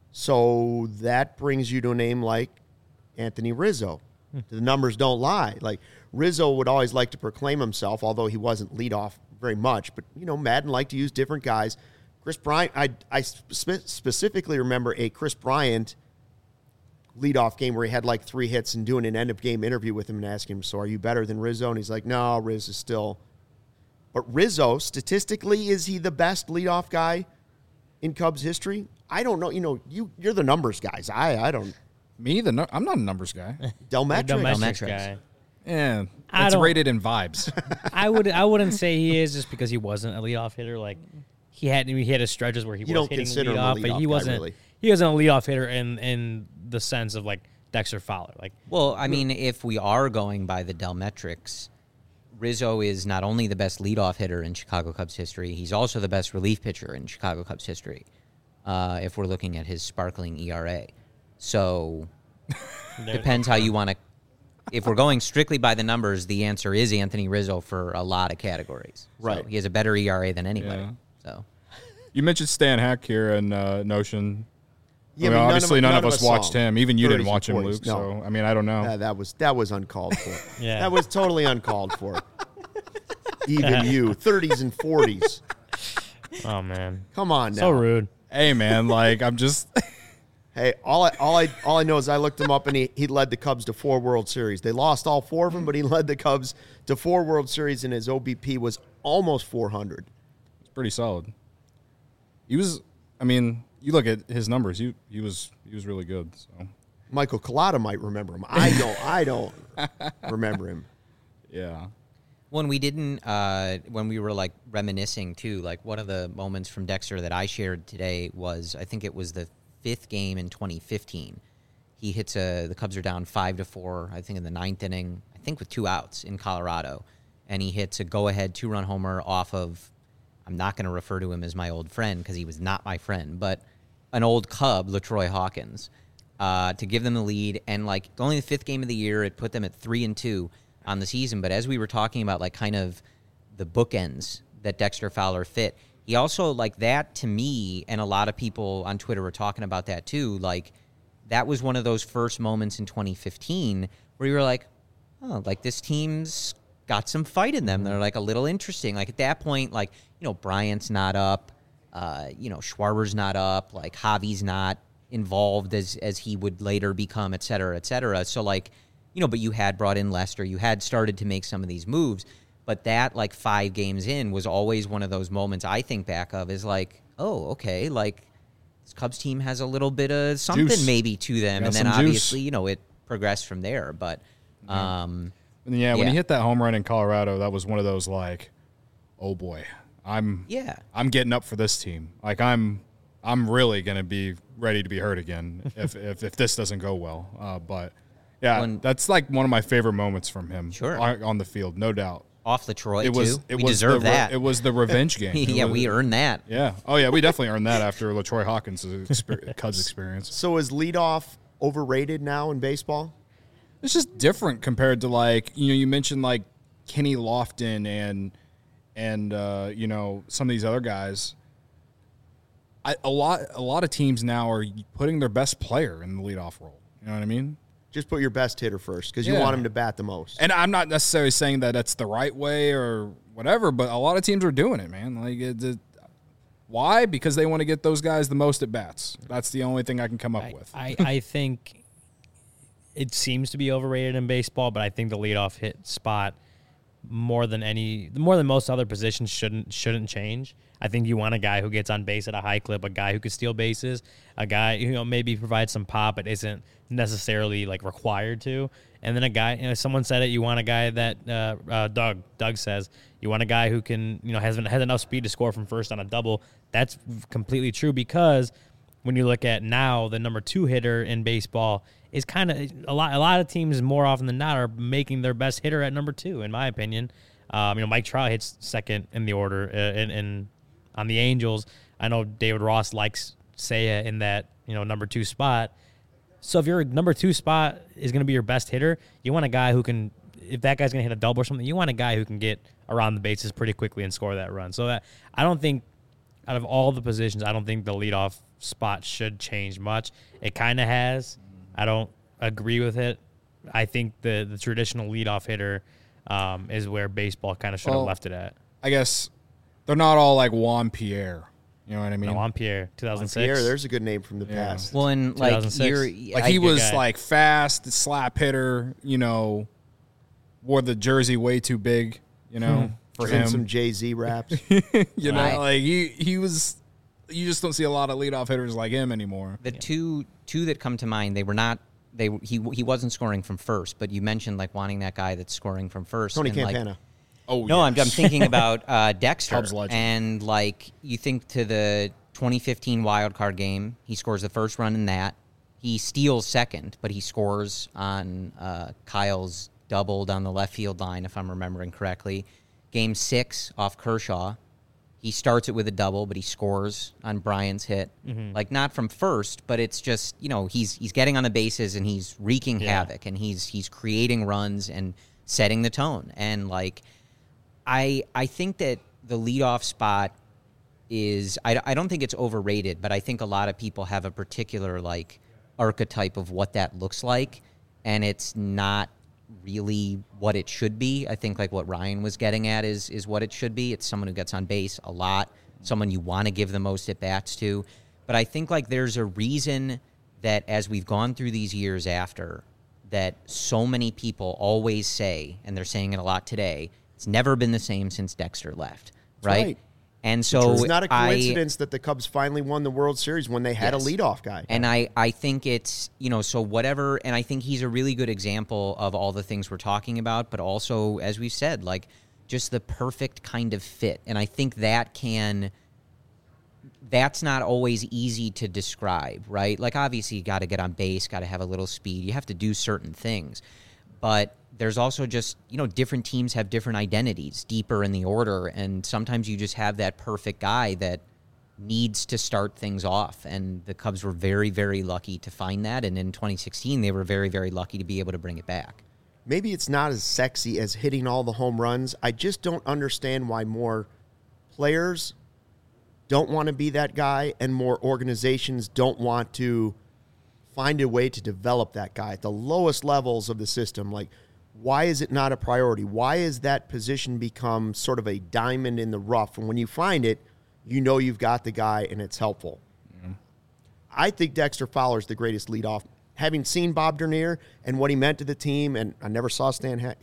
So that brings you to a name like Anthony Rizzo. The numbers don't lie. Like Rizzo would always like to proclaim himself, although he wasn't leadoff very much. But, Madden liked to use different guys. Chris Bryant, I specifically remember a Chris Bryant leadoff game where he had like 3 hits and doing an end-of-game interview with him and asking him, so are you better than Rizzo? And he's like, no, Riz is still. But Rizzo, statistically, is he the best leadoff guy in Cubs history? I don't know. You're the numbers guys. I don't. Me? I'm not a numbers guy. Delmetrics guy. Yeah, it's rated in vibes. I wouldn't say he is just because he wasn't a leadoff hitter. Like he had his stretches where he was hitting leadoff, but he wasn't. Really. He wasn't a leadoff hitter in the sense of like Dexter Fowler. Like, well, I mean, if we are going by the Delmetrics, Rizzo is not only the best leadoff hitter in Chicago Cubs history, he's also the best relief pitcher in Chicago Cubs history. If we're looking at his sparkling ERA, so depends how you want to. If we're going strictly by the numbers, the answer is Anthony Rizzo for a lot of categories. Right. So he has a better ERA than anybody. Yeah. So you mentioned Stan Hack here in Notion. Yeah, obviously none of us watched him. Even you didn't watch him, 40s. Luke. No. So I mean, I don't know. That was uncalled for. Yeah, that was totally uncalled for. Even you, 30s and 40s. Oh man, come on now. So rude. Hey man, like I'm just. Hey, all I know is I looked him up and he led the Cubs to 4 World Series. They lost all 4 of them, but he led the Cubs to 4 World Series, and his OBP was almost 400. It's pretty solid. He was. I mean, you look at his numbers. He was really good. So Michael Collada might remember him. I don't remember him. Yeah. When we were like reminiscing too, like one of the moments from Dexter that I shared today was, I think it was the 5th game in 2015. He hits the Cubs are down 5-4, I think in the 9th inning, I think with 2 outs in Colorado. And he hits a go-ahead 2-run homer off of, I'm not going to refer to him as my old friend because he was not my friend, but an old Cub, LaTroy Hawkins, to give them the lead. And like only the 5th game of the year, it put them at 3-2 on the season. But as we were talking about like kind of the bookends that Dexter Fowler fit, he also, like, that to me, and a lot of people on Twitter were talking about that too, like, that was one of those first moments in 2015 where you were like, oh, like, this team's got some fight in them. They're, like, a little interesting. Like, at that point, like, Bryant's not up, Schwarber's not up, like, Javi's not involved as he would later become, et cetera, et cetera. So, like, but you had brought in Lester. You had started to make some of these moves. But that, like, 5 games in was always one of those moments I think back of is like, oh, okay, like, this Cubs team has a little bit of something Juice. Maybe to them. Got and then some obviously, juice. It progressed from there. But, when he hit that home run in Colorado, that was one of those, like, oh, boy, I'm getting up for this team. Like, I'm really going to be ready to be hurt again if this doesn't go well. But, yeah, that's, like, one of my favorite moments from him on the field, no doubt. Off LaTroy, we deserve that. It was the revenge game. We earned that. Yeah. Oh, yeah, we definitely earned that after LaTroy Hawkins' Cubs experience. So is leadoff overrated now in baseball? It's just different compared to, like, you mentioned, like, Kenny Lofton and some of these other guys. A lot of teams now are putting their best player in the leadoff role. You know what I mean? Just put your best hitter first because you want him to bat the most. And I'm not necessarily saying that that's the right way or whatever, but a lot of teams are doing it, man. Like, why? Because they want to get those guys the most at bats. That's the only thing I can come up with. I think it seems to be overrated in baseball, but I think the leadoff hit spot more than most other positions shouldn't change. I think you want a guy who gets on base at a high clip, a guy who can steal bases, a guy who maybe provides some pop but isn't necessarily like required to. And then a guy, someone said it, you want a guy that Doug says you want a guy who can has enough speed to score from first on a double. That's completely true because when you look at now, the number 2 hitter in baseball is kind of a lot of teams more often than not are making their best hitter at number 2, in my opinion. Mike Trout hits second in the order and on the Angels. I know David Ross likes Seiya in that, number 2 spot. So if your number 2 spot is going to be your best hitter, you want a guy who can, if that guy's going to hit a double or something, you want a guy who can get around the bases pretty quickly and score that run. So I don't think, out of all the positions, I don't think the leadoff spot should change much. It kind of has. I don't agree with it. I think the traditional leadoff hitter is where baseball kind of should have left it at. I guess they're not all like Juan Pierre. You know what I mean? Juan Pierre, 2006. Juan Pierre, there's a good name from the past. Well, and like he was like fast, slap hitter. Wore the jersey way too big. For him. Some Jay-Z raps. Like he was. You just don't see a lot of leadoff hitters like him anymore. The two that come to mind, they were not. He wasn't scoring from first, but you mentioned like wanting that guy that's scoring from first. Tony Campana. No, yes. I'm thinking about Dexter. Cubs legend. And like you think to the 2015 wild card game, he scores the first run in that. He steals second, but he scores on Kyle's double down the left field line, if I'm remembering correctly. Game 6 off Kershaw. He starts it with a double, but he scores on Brian's hit. Mm-hmm. Like, not from first, but it's just, he's getting on the bases and he's wreaking havoc and he's creating runs and setting the tone. And, like, I think that the leadoff spot is, I don't think it's overrated, but I think a lot of people have a particular, like, archetype of what that looks like, and it's not really what it should be. I think like what Ryan was getting at is what it should be. It's someone who gets on base a lot, someone you want to give the most at bats to. But I think like there's a reason that as we've gone through these years after, that so many people always say, and they're saying it a lot today, it's never been the same since Dexter left, right? And so it's not a coincidence that the Cubs finally won the World Series when they had a leadoff guy. And I think it's, so whatever, and I think he's a really good example of all the things we're talking about, but also, as we've said, like just the perfect kind of fit. And I think that's not always easy to describe, right? Like obviously you got to get on base, got to have a little speed. You have to do certain things. But there's also just, different teams have different identities deeper in the order, and sometimes you just have that perfect guy that needs to start things off, and the Cubs were very, very lucky to find that, and in 2016, they were very, very lucky to be able to bring it back. Maybe it's not as sexy as hitting all the home runs. I just don't understand why more players don't want to be that guy and more organizations don't want to find a way to develop that guy at the lowest levels of the system. Like, why is it not a priority? Why is that position become sort of a diamond in the rough? And when you find it, you've got the guy and it's helpful. Mm-hmm. I think Dexter Fowler is the greatest leadoff. Having seen Bob Dernier and what he meant to the team, and I never saw Stan Hack.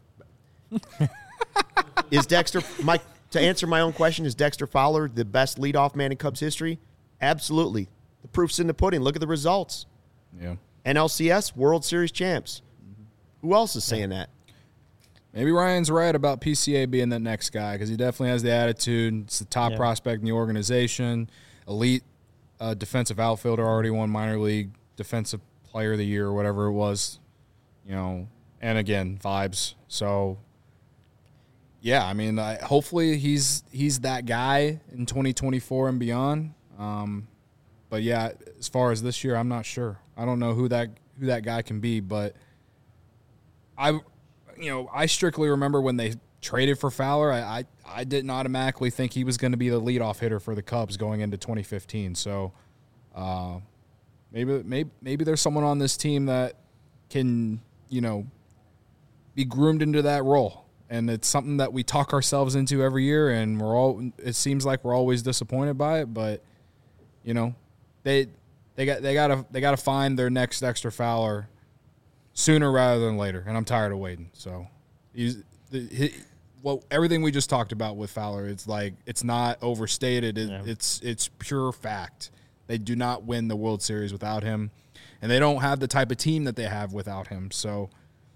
Is Dexter, to answer my own question, is Dexter Fowler the best leadoff man in Cubs history? Absolutely. The proof's in the pudding. Look at the results. Yeah. NLCS, World Series champs. Who else is saying that? Maybe Ryan's right about PCA being that next guy because he definitely has the attitude. It's the top prospect in the organization. Elite defensive outfielder, already won minor league defensive player of the year or whatever it was. And again, vibes. So, yeah, I mean, hopefully he's that guy in 2024 and beyond. But, yeah, as far as this year, I'm not sure. I don't know who that guy can be, but I strictly remember when they traded for Fowler, I didn't automatically think he was going to be the leadoff hitter for the Cubs going into 2015. So maybe there's someone on this team that can, be groomed into that role. And it's something that we talk ourselves into every year, and it seems like we're always disappointed by it, but they got to find their next Dexter Fowler sooner rather than later, and I'm tired of waiting. So, everything we just talked about with Fowler, it's like it's not overstated. It's pure fact. They do not win the World Series without him, and they don't have the type of team that they have without him. So,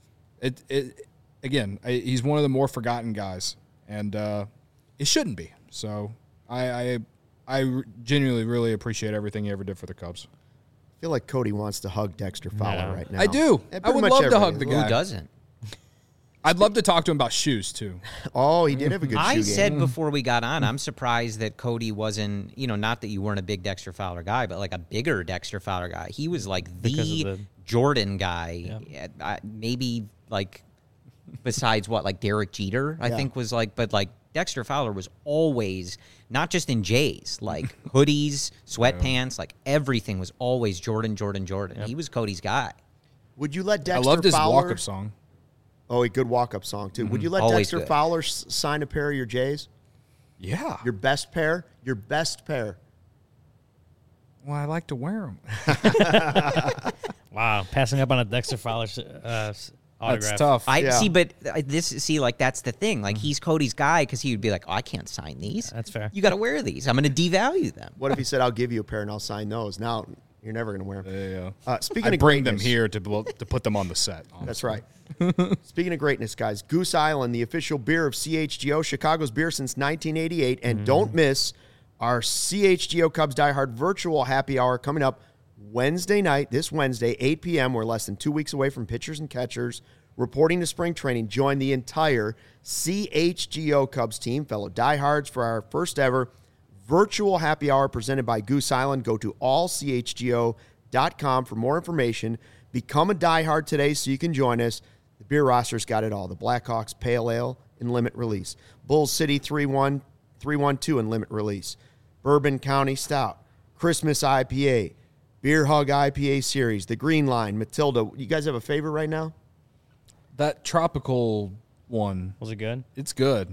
he's one of the more forgotten guys, and it shouldn't be. So, I I genuinely really appreciate everything he ever did for the Cubs. I feel like Cody wants to hug Dexter Fowler right now. I do. Yeah, I would pretty love much to hug everybody. the guy. Who doesn't? I'd love to talk to him about shoes too. Oh, he did have a good shoe I game. said before we got on, I'm surprised that Cody wasn't, not that you weren't a big Dexter Fowler guy, but like a bigger Dexter Fowler guy. He was like the Jordan guy. Yeah. Maybe like besides what, like Derek Jeter, I think was like, but like Dexter Fowler was always, not just in Jays, like hoodies, sweatpants, like everything was always Jordan. Yep. He was Cody's guy. Would you let Dexter I loved his Fowler... walk-up song. Oh, a good walk-up song, too. Would you let Always Dexter good. Fowler sign a pair of your Jays? Yeah. Your best pair? Your best pair. Well, I like to wear them. Wow, passing up on a Dexter Fowler autograph. That's tough. See, but like that's the thing. Like he's Cody's guy because he would be like, "Oh, I can't sign these. That's fair. You got to wear these. I'm going to devalue them." What if he said, I'll give you a pair and I'll sign those? Now, you're never going to wear them. Yeah. Speaking I of bring them greatness- here to put them on the set. Honestly. That's right. Speaking of greatness, guys, Goose Island, the official beer of CHGO, Chicago's beer since 1988. And don't miss our CHGO Cubs Die Hard virtual happy hour coming up Wednesday night, this Wednesday, 8 p.m. We're less than 2 weeks away from pitchers and catchers reporting to spring training. Join the entire CHGO Cubs team, fellow diehards, for our first ever virtual happy hour presented by Goose Island. Go to allchgo.com for more information. Become a diehard today so you can join us. The beer roster's got it all. The Blackhawks Pale Ale and Limit Release. Bulls City 312 and Limit Release. Bourbon County Stout. Christmas IPA. Beer Hug IPA Series. The Green Line. Matilda. You guys have a favorite right now? That tropical one. Was it good? It's good.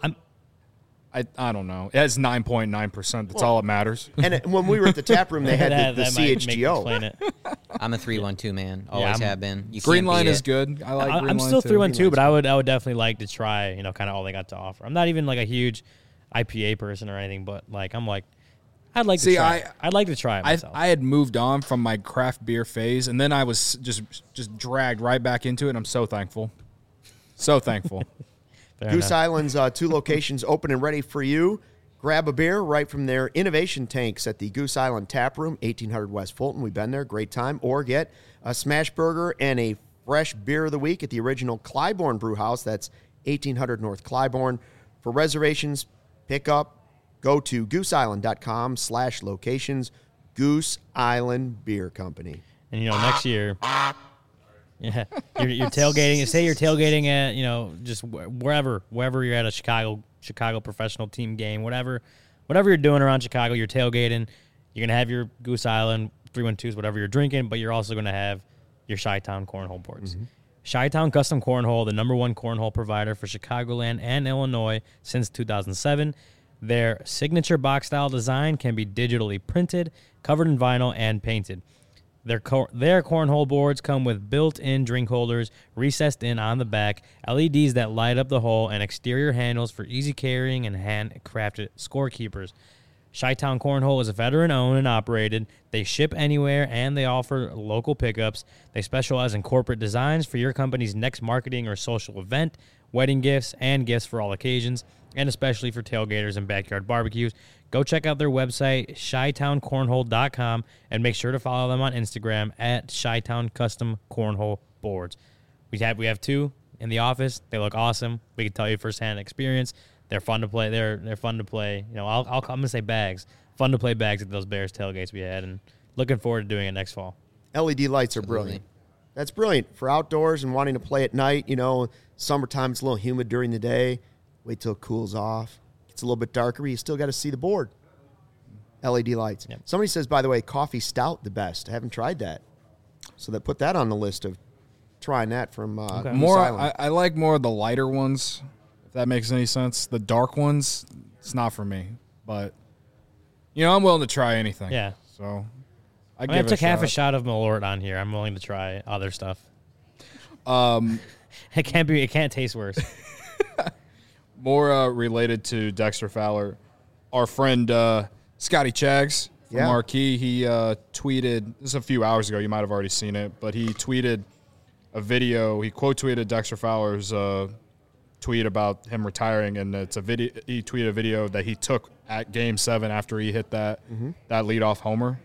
I don't know. It has 9.9%. That's all that matters. And when we were at the tap room, they had the That might make me CHGO. explain it. I'm a 312 man. Always have been. You Green can't Line beat is it. good. I like Green I'm Line still too. 312, but I would definitely like to try, kind of all they got to offer. I'm not even like a huge IPA person or anything, but like I'd like to try. I'd like to try it myself. I had moved on from my craft beer phase, and then I was just dragged right back into it. And I'm so thankful. So thankful. Goose Island's 2 locations open and ready for you. Grab a beer right from their innovation tanks at the Goose Island Tap Room, 1800 West Fulton. We've been there. Great time. Or get a smash burger and a fresh beer of the week at the original Clybourne Brew House. That's 1800 North Clybourne. For reservations, pick up, go to gooseisland.com/locations. Goose Island Beer Company. And, next year, yeah, you're tailgating. Say you're tailgating at, just wherever you're at a Chicago professional team game, whatever you're doing around Chicago, you're tailgating. You're going to have your Goose Island 312s, whatever you're drinking, but you're also going to have your Chi-Town cornhole boards. Chi-Town Custom Cornhole, the #1 cornhole provider for Chicagoland and Illinois since 2007. Their signature box-style design can be digitally printed, covered in vinyl, and painted. Their cornhole boards come with built-in drink holders recessed in on the back, LEDs that light up the hole, and exterior handles for easy carrying and handcrafted scorekeepers. Chi-Town Cornhole is veteran-owned and operated. They ship anywhere, and they offer local pickups. They specialize in corporate designs for your company's next marketing or social event, wedding gifts, and gifts for all occasions, and especially for tailgaters and backyard barbecues. Go check out their website, ChiTownCornhole.com, and make sure to follow them on Instagram at Chi-Town Custom Cornhole Boards. We have 2 in the office. They look awesome. We can tell you firsthand experience. They're fun to play. They're fun to play. I'm gonna say bags. Fun to play bags at those Bears tailgates we had, and looking forward to doing it next fall. LED lights are brilliant. That's brilliant for outdoors and wanting to play at night. Summertime, it's a little humid during the day. Wait till it cools off. It's a little bit darker, but you still got to see the board. LED lights. Yep. Somebody says, by the way, coffee stout the best. I haven't tried that. So put that on the list of trying that from Okay. More. I like more of the lighter ones, if that makes any sense. The dark ones, it's not for me. But, I'm willing to try anything. Yeah. So, I took half a shot of Malort on here. I'm willing to try other stuff. It can't taste worse. More related to Dexter Fowler, our friend Scotty Chags from Marquee, he tweeted, this is a few hours ago, you might have already seen it, but he tweeted a video, he quote tweeted Dexter Fowler's tweet about him retiring, and it's a video. He tweeted a video that he took at Game 7 after he hit that leadoff homer.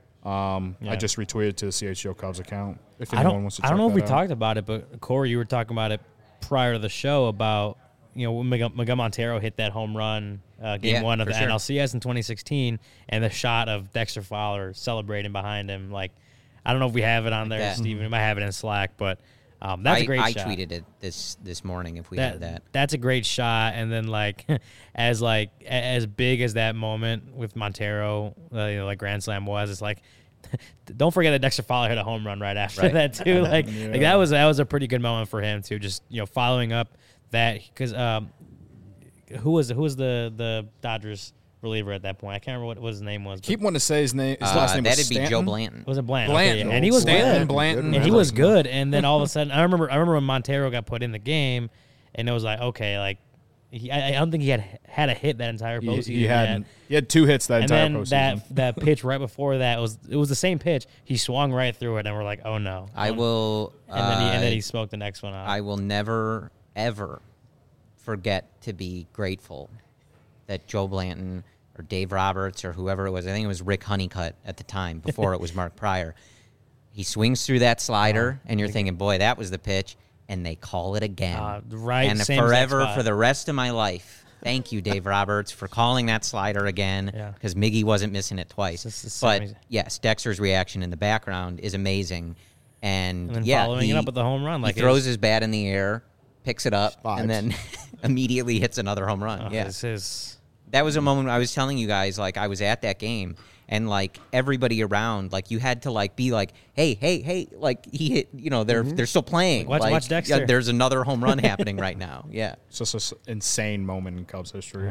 I just retweeted to the CHGO Cubs account. If anyone wants to check I don't know if we out. talked about it, but Corey, you were talking about it prior to the show about when Miguel Montero hit that home run game 1 of the NLCS in 2016, and the shot of Dexter Fowler celebrating behind him. Like, I don't know if we have it on there, Steven. We might have it in Slack, but that's a great shot. I tweeted it this morning if we have that. That's a great shot, and then as big as that moment with Montero, like Grand Slam was, it's like, don't forget that Dexter Fowler hit a home run right after that too. Like that was a pretty good moment for him too. Just following up that, because who was the Dodgers reliever at that point? I can't remember what his name was. Keep wanting to say his name. His last name was That'd be Stanton? Joe Blanton. Was it Blanton? Blanton. Okay, and he was Stanton, good. Blanton. And he was good. And then all of a sudden, I remember when Montero got put in the game, and it was like, okay, like I don't think he had a hit that entire postseason. He had 2 hits that entire postseason. And then that pitch right before that was the same pitch. He swung right through it, and we're like, oh no. I will. And then he smoked the next one out. I will never ever forget to be grateful that Joe Blanton or Dave Roberts or whoever it was, I think it was Rick Honeycutt at the time before it was Mark Pryor. He swings through that slider, and you're thinking, boy, that was the pitch, and they call it again. Right, and same forever, for the rest of my life, thank you, Dave Roberts, for calling that slider again, because Miggy wasn't missing it twice. But, yes, Dexter's reaction in the background is amazing. And then following it up with the home run. He throws his bat in the air, picks it up, and then immediately hits another home run. That was a moment I was telling you guys, like, I was at that game, and, like, everybody around, like, you had to, like, be like, hey, like, he hit, they're still playing. Watch Dexter. Yeah, there's another home run happening right now. Yeah. It's just an insane moment in Cubs history.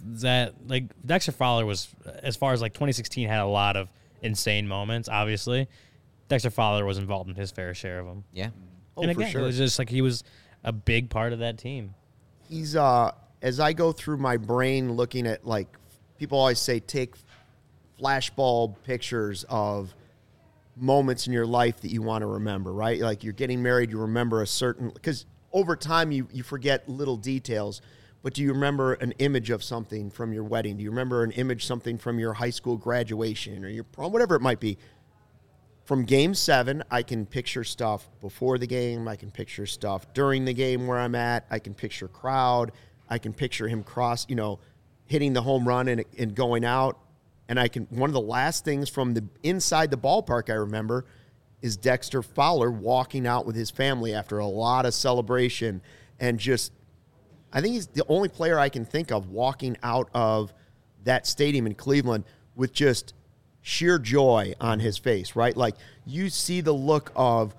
Dexter Fowler was, as far as, like, 2016 had a lot of insane moments, obviously. Dexter Fowler was involved in his fair share of them. Yeah. And again, for sure. It was just like he was a big part of that team. He's as I go through my brain looking at, like, people always say take flashbulb pictures of moments in your life that you want to remember, right? Like, you're getting married, you remember a certain, because over time you forget little details, but do you remember an image of something from your wedding? Do you remember an image, something from your high school graduation or your prom, whatever it might be? From Game 7, I can picture stuff before the game. I can picture stuff during the game where I'm at. I can picture crowd. I can picture him hitting the home run and going out. And one of the last things from the inside the ballpark I remember is Dexter Fowler walking out with his family after a lot of celebration. And I think he's the only player I can think of walking out of that stadium in Cleveland with just sheer joy on his face, right? Like, you see the look of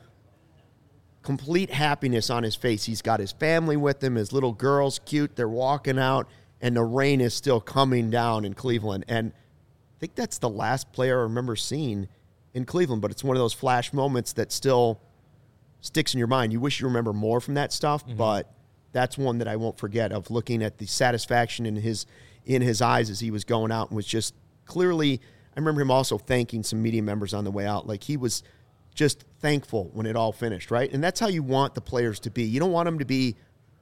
complete happiness on his face. He's got his family with him, his little girl's cute, they're walking out, and the rain is still coming down in Cleveland. And I think that's the last player I remember seeing in Cleveland, but it's one of those flash moments that still sticks in your mind. You wish you remember more from that stuff, but that's one that I won't forget, of looking at the satisfaction in his eyes as he was going out, and was just clearly, I remember him also thanking some media members on the way out. Like, he was just thankful when it all finished, right? And that's how you want the players to be. You don't want them to be,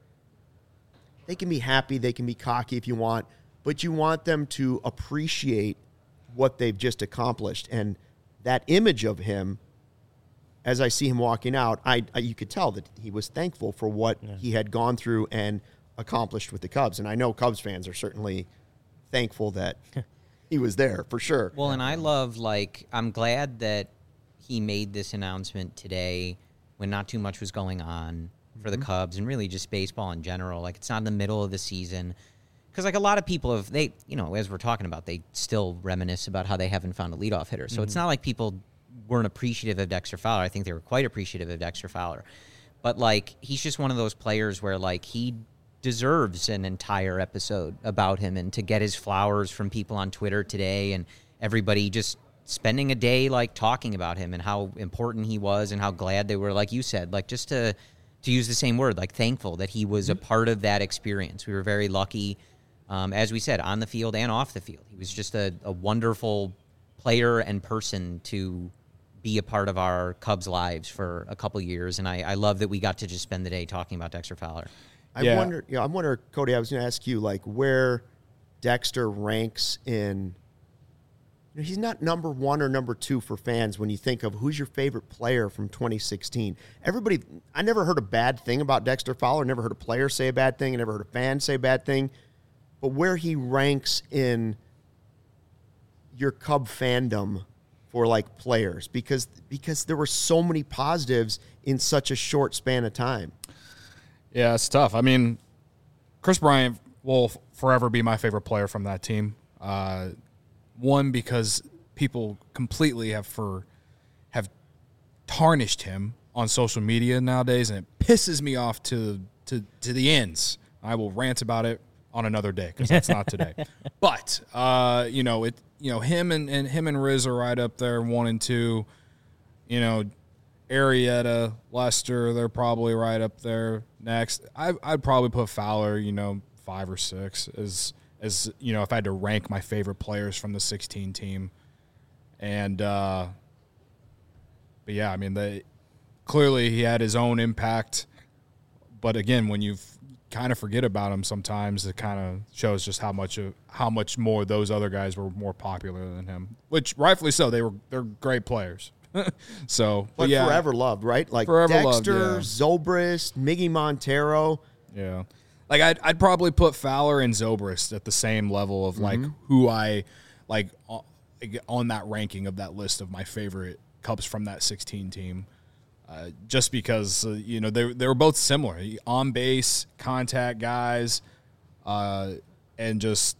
they can be happy, they can be cocky if you want, but you want them to appreciate what they've just accomplished. And that image of him, as I see him walking out, you could tell that he was thankful for what he had gone through and accomplished with the Cubs. And I know Cubs fans are certainly thankful that he was there, for sure. Well, and I love, like, I'm glad that he made this announcement today when not too much was going on for the Cubs and really just baseball in general. Like, it's not in the middle of the season. Because, like, a lot of people as we're talking about, they still reminisce about how they haven't found a leadoff hitter. So it's not like people weren't appreciative of Dexter Fowler. I think they were quite appreciative of Dexter Fowler. But, like, he's just one of those players where, like, he deserves an entire episode about him, and to get his flowers from people on Twitter today and everybody just spending a day, like, talking about him and how important he was and how glad they were, like you said, like, just to use the same word, like, thankful that he was a part of that experience. We were very lucky, as we said, on the field and off the field. He was just a wonderful player and person to be a part of our Cubs lives for a couple years, and I love that we got to just spend the day talking about Dexter Fowler. I wonder, Cody, I was going to ask you, like, where Dexter ranks in. He's not number 1 or number 2 for fans when you think of who's your favorite player from 2016. I never heard a bad thing about Dexter Fowler. Never heard a player say a bad thing. I never heard a fan say a bad thing. But where he ranks in your Cub fandom for, like, players, because there were so many positives in such a short span of time. Yeah, it's tough. I mean, Chris Bryant will forever be my favorite player from that team. One, because people completely have tarnished him on social media nowadays, and it pisses me off to the ends. I will rant about it on another day because that's not today. But him and Riz are right up there, 1 and 2. Arrieta, Lester, they're probably right up there next. I'd probably put Fowler, 5 or 6 as if I had to rank my favorite players from the 16 team. And but yeah, I mean, clearly he had his own impact. But again, when you kind of forget about him sometimes, it kind of shows just how much more those other guys were more popular than him, which rightfully so. They're great players. But yeah, forever loved, right? Like forever Dexter, loved, yeah. Zobrist, Miggy Montero. Yeah. Like I'd probably put Fowler and Zobrist at the same level of like who I like on that ranking of that list of my favorite Cubs from that 16 team, just because they were both similar, on base contact guys, and just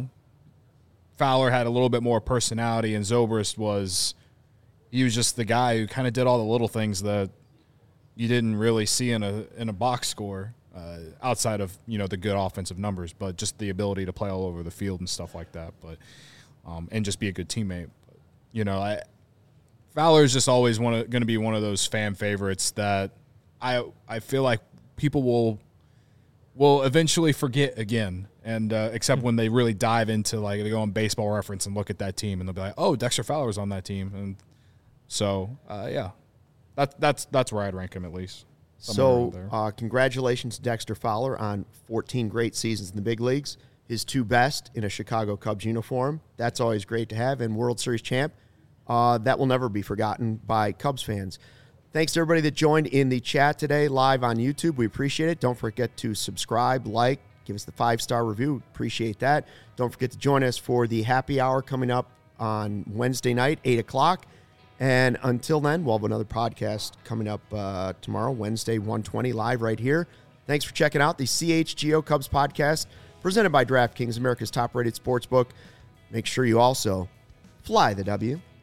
Fowler had a little bit more personality, and Zobrist was just the guy who kind of did all the little things that you didn't really see in a box score. Outside of the good offensive numbers, but just the ability to play all over the field and stuff like that, but and just be a good teammate. But, Fowler's just always going to be one of those fan favorites that I feel like people will eventually forget again, and except when they really dive into, like, they go on Baseball Reference and look at that team, and they'll be like, oh, Dexter Fowler's on that team, and so yeah, that's where I'd rank him at least. So, congratulations to Dexter Fowler on 14 great seasons in the big leagues. His 2 best in a Chicago Cubs uniform. That's always great to have. And World Series champ. That will never be forgotten by Cubs fans. Thanks to everybody that joined in the chat today live on YouTube. We appreciate it. Don't forget to subscribe, like, give us the 5-star review. Appreciate that. Don't forget to join us for the happy hour coming up on Wednesday night, 8 o'clock. And until then, we'll have another podcast coming up tomorrow, Wednesday, 1:20, live right here. Thanks for checking out the CHGO Cubs podcast presented by DraftKings, America's top-rated sportsbook. Make sure you also fly the W.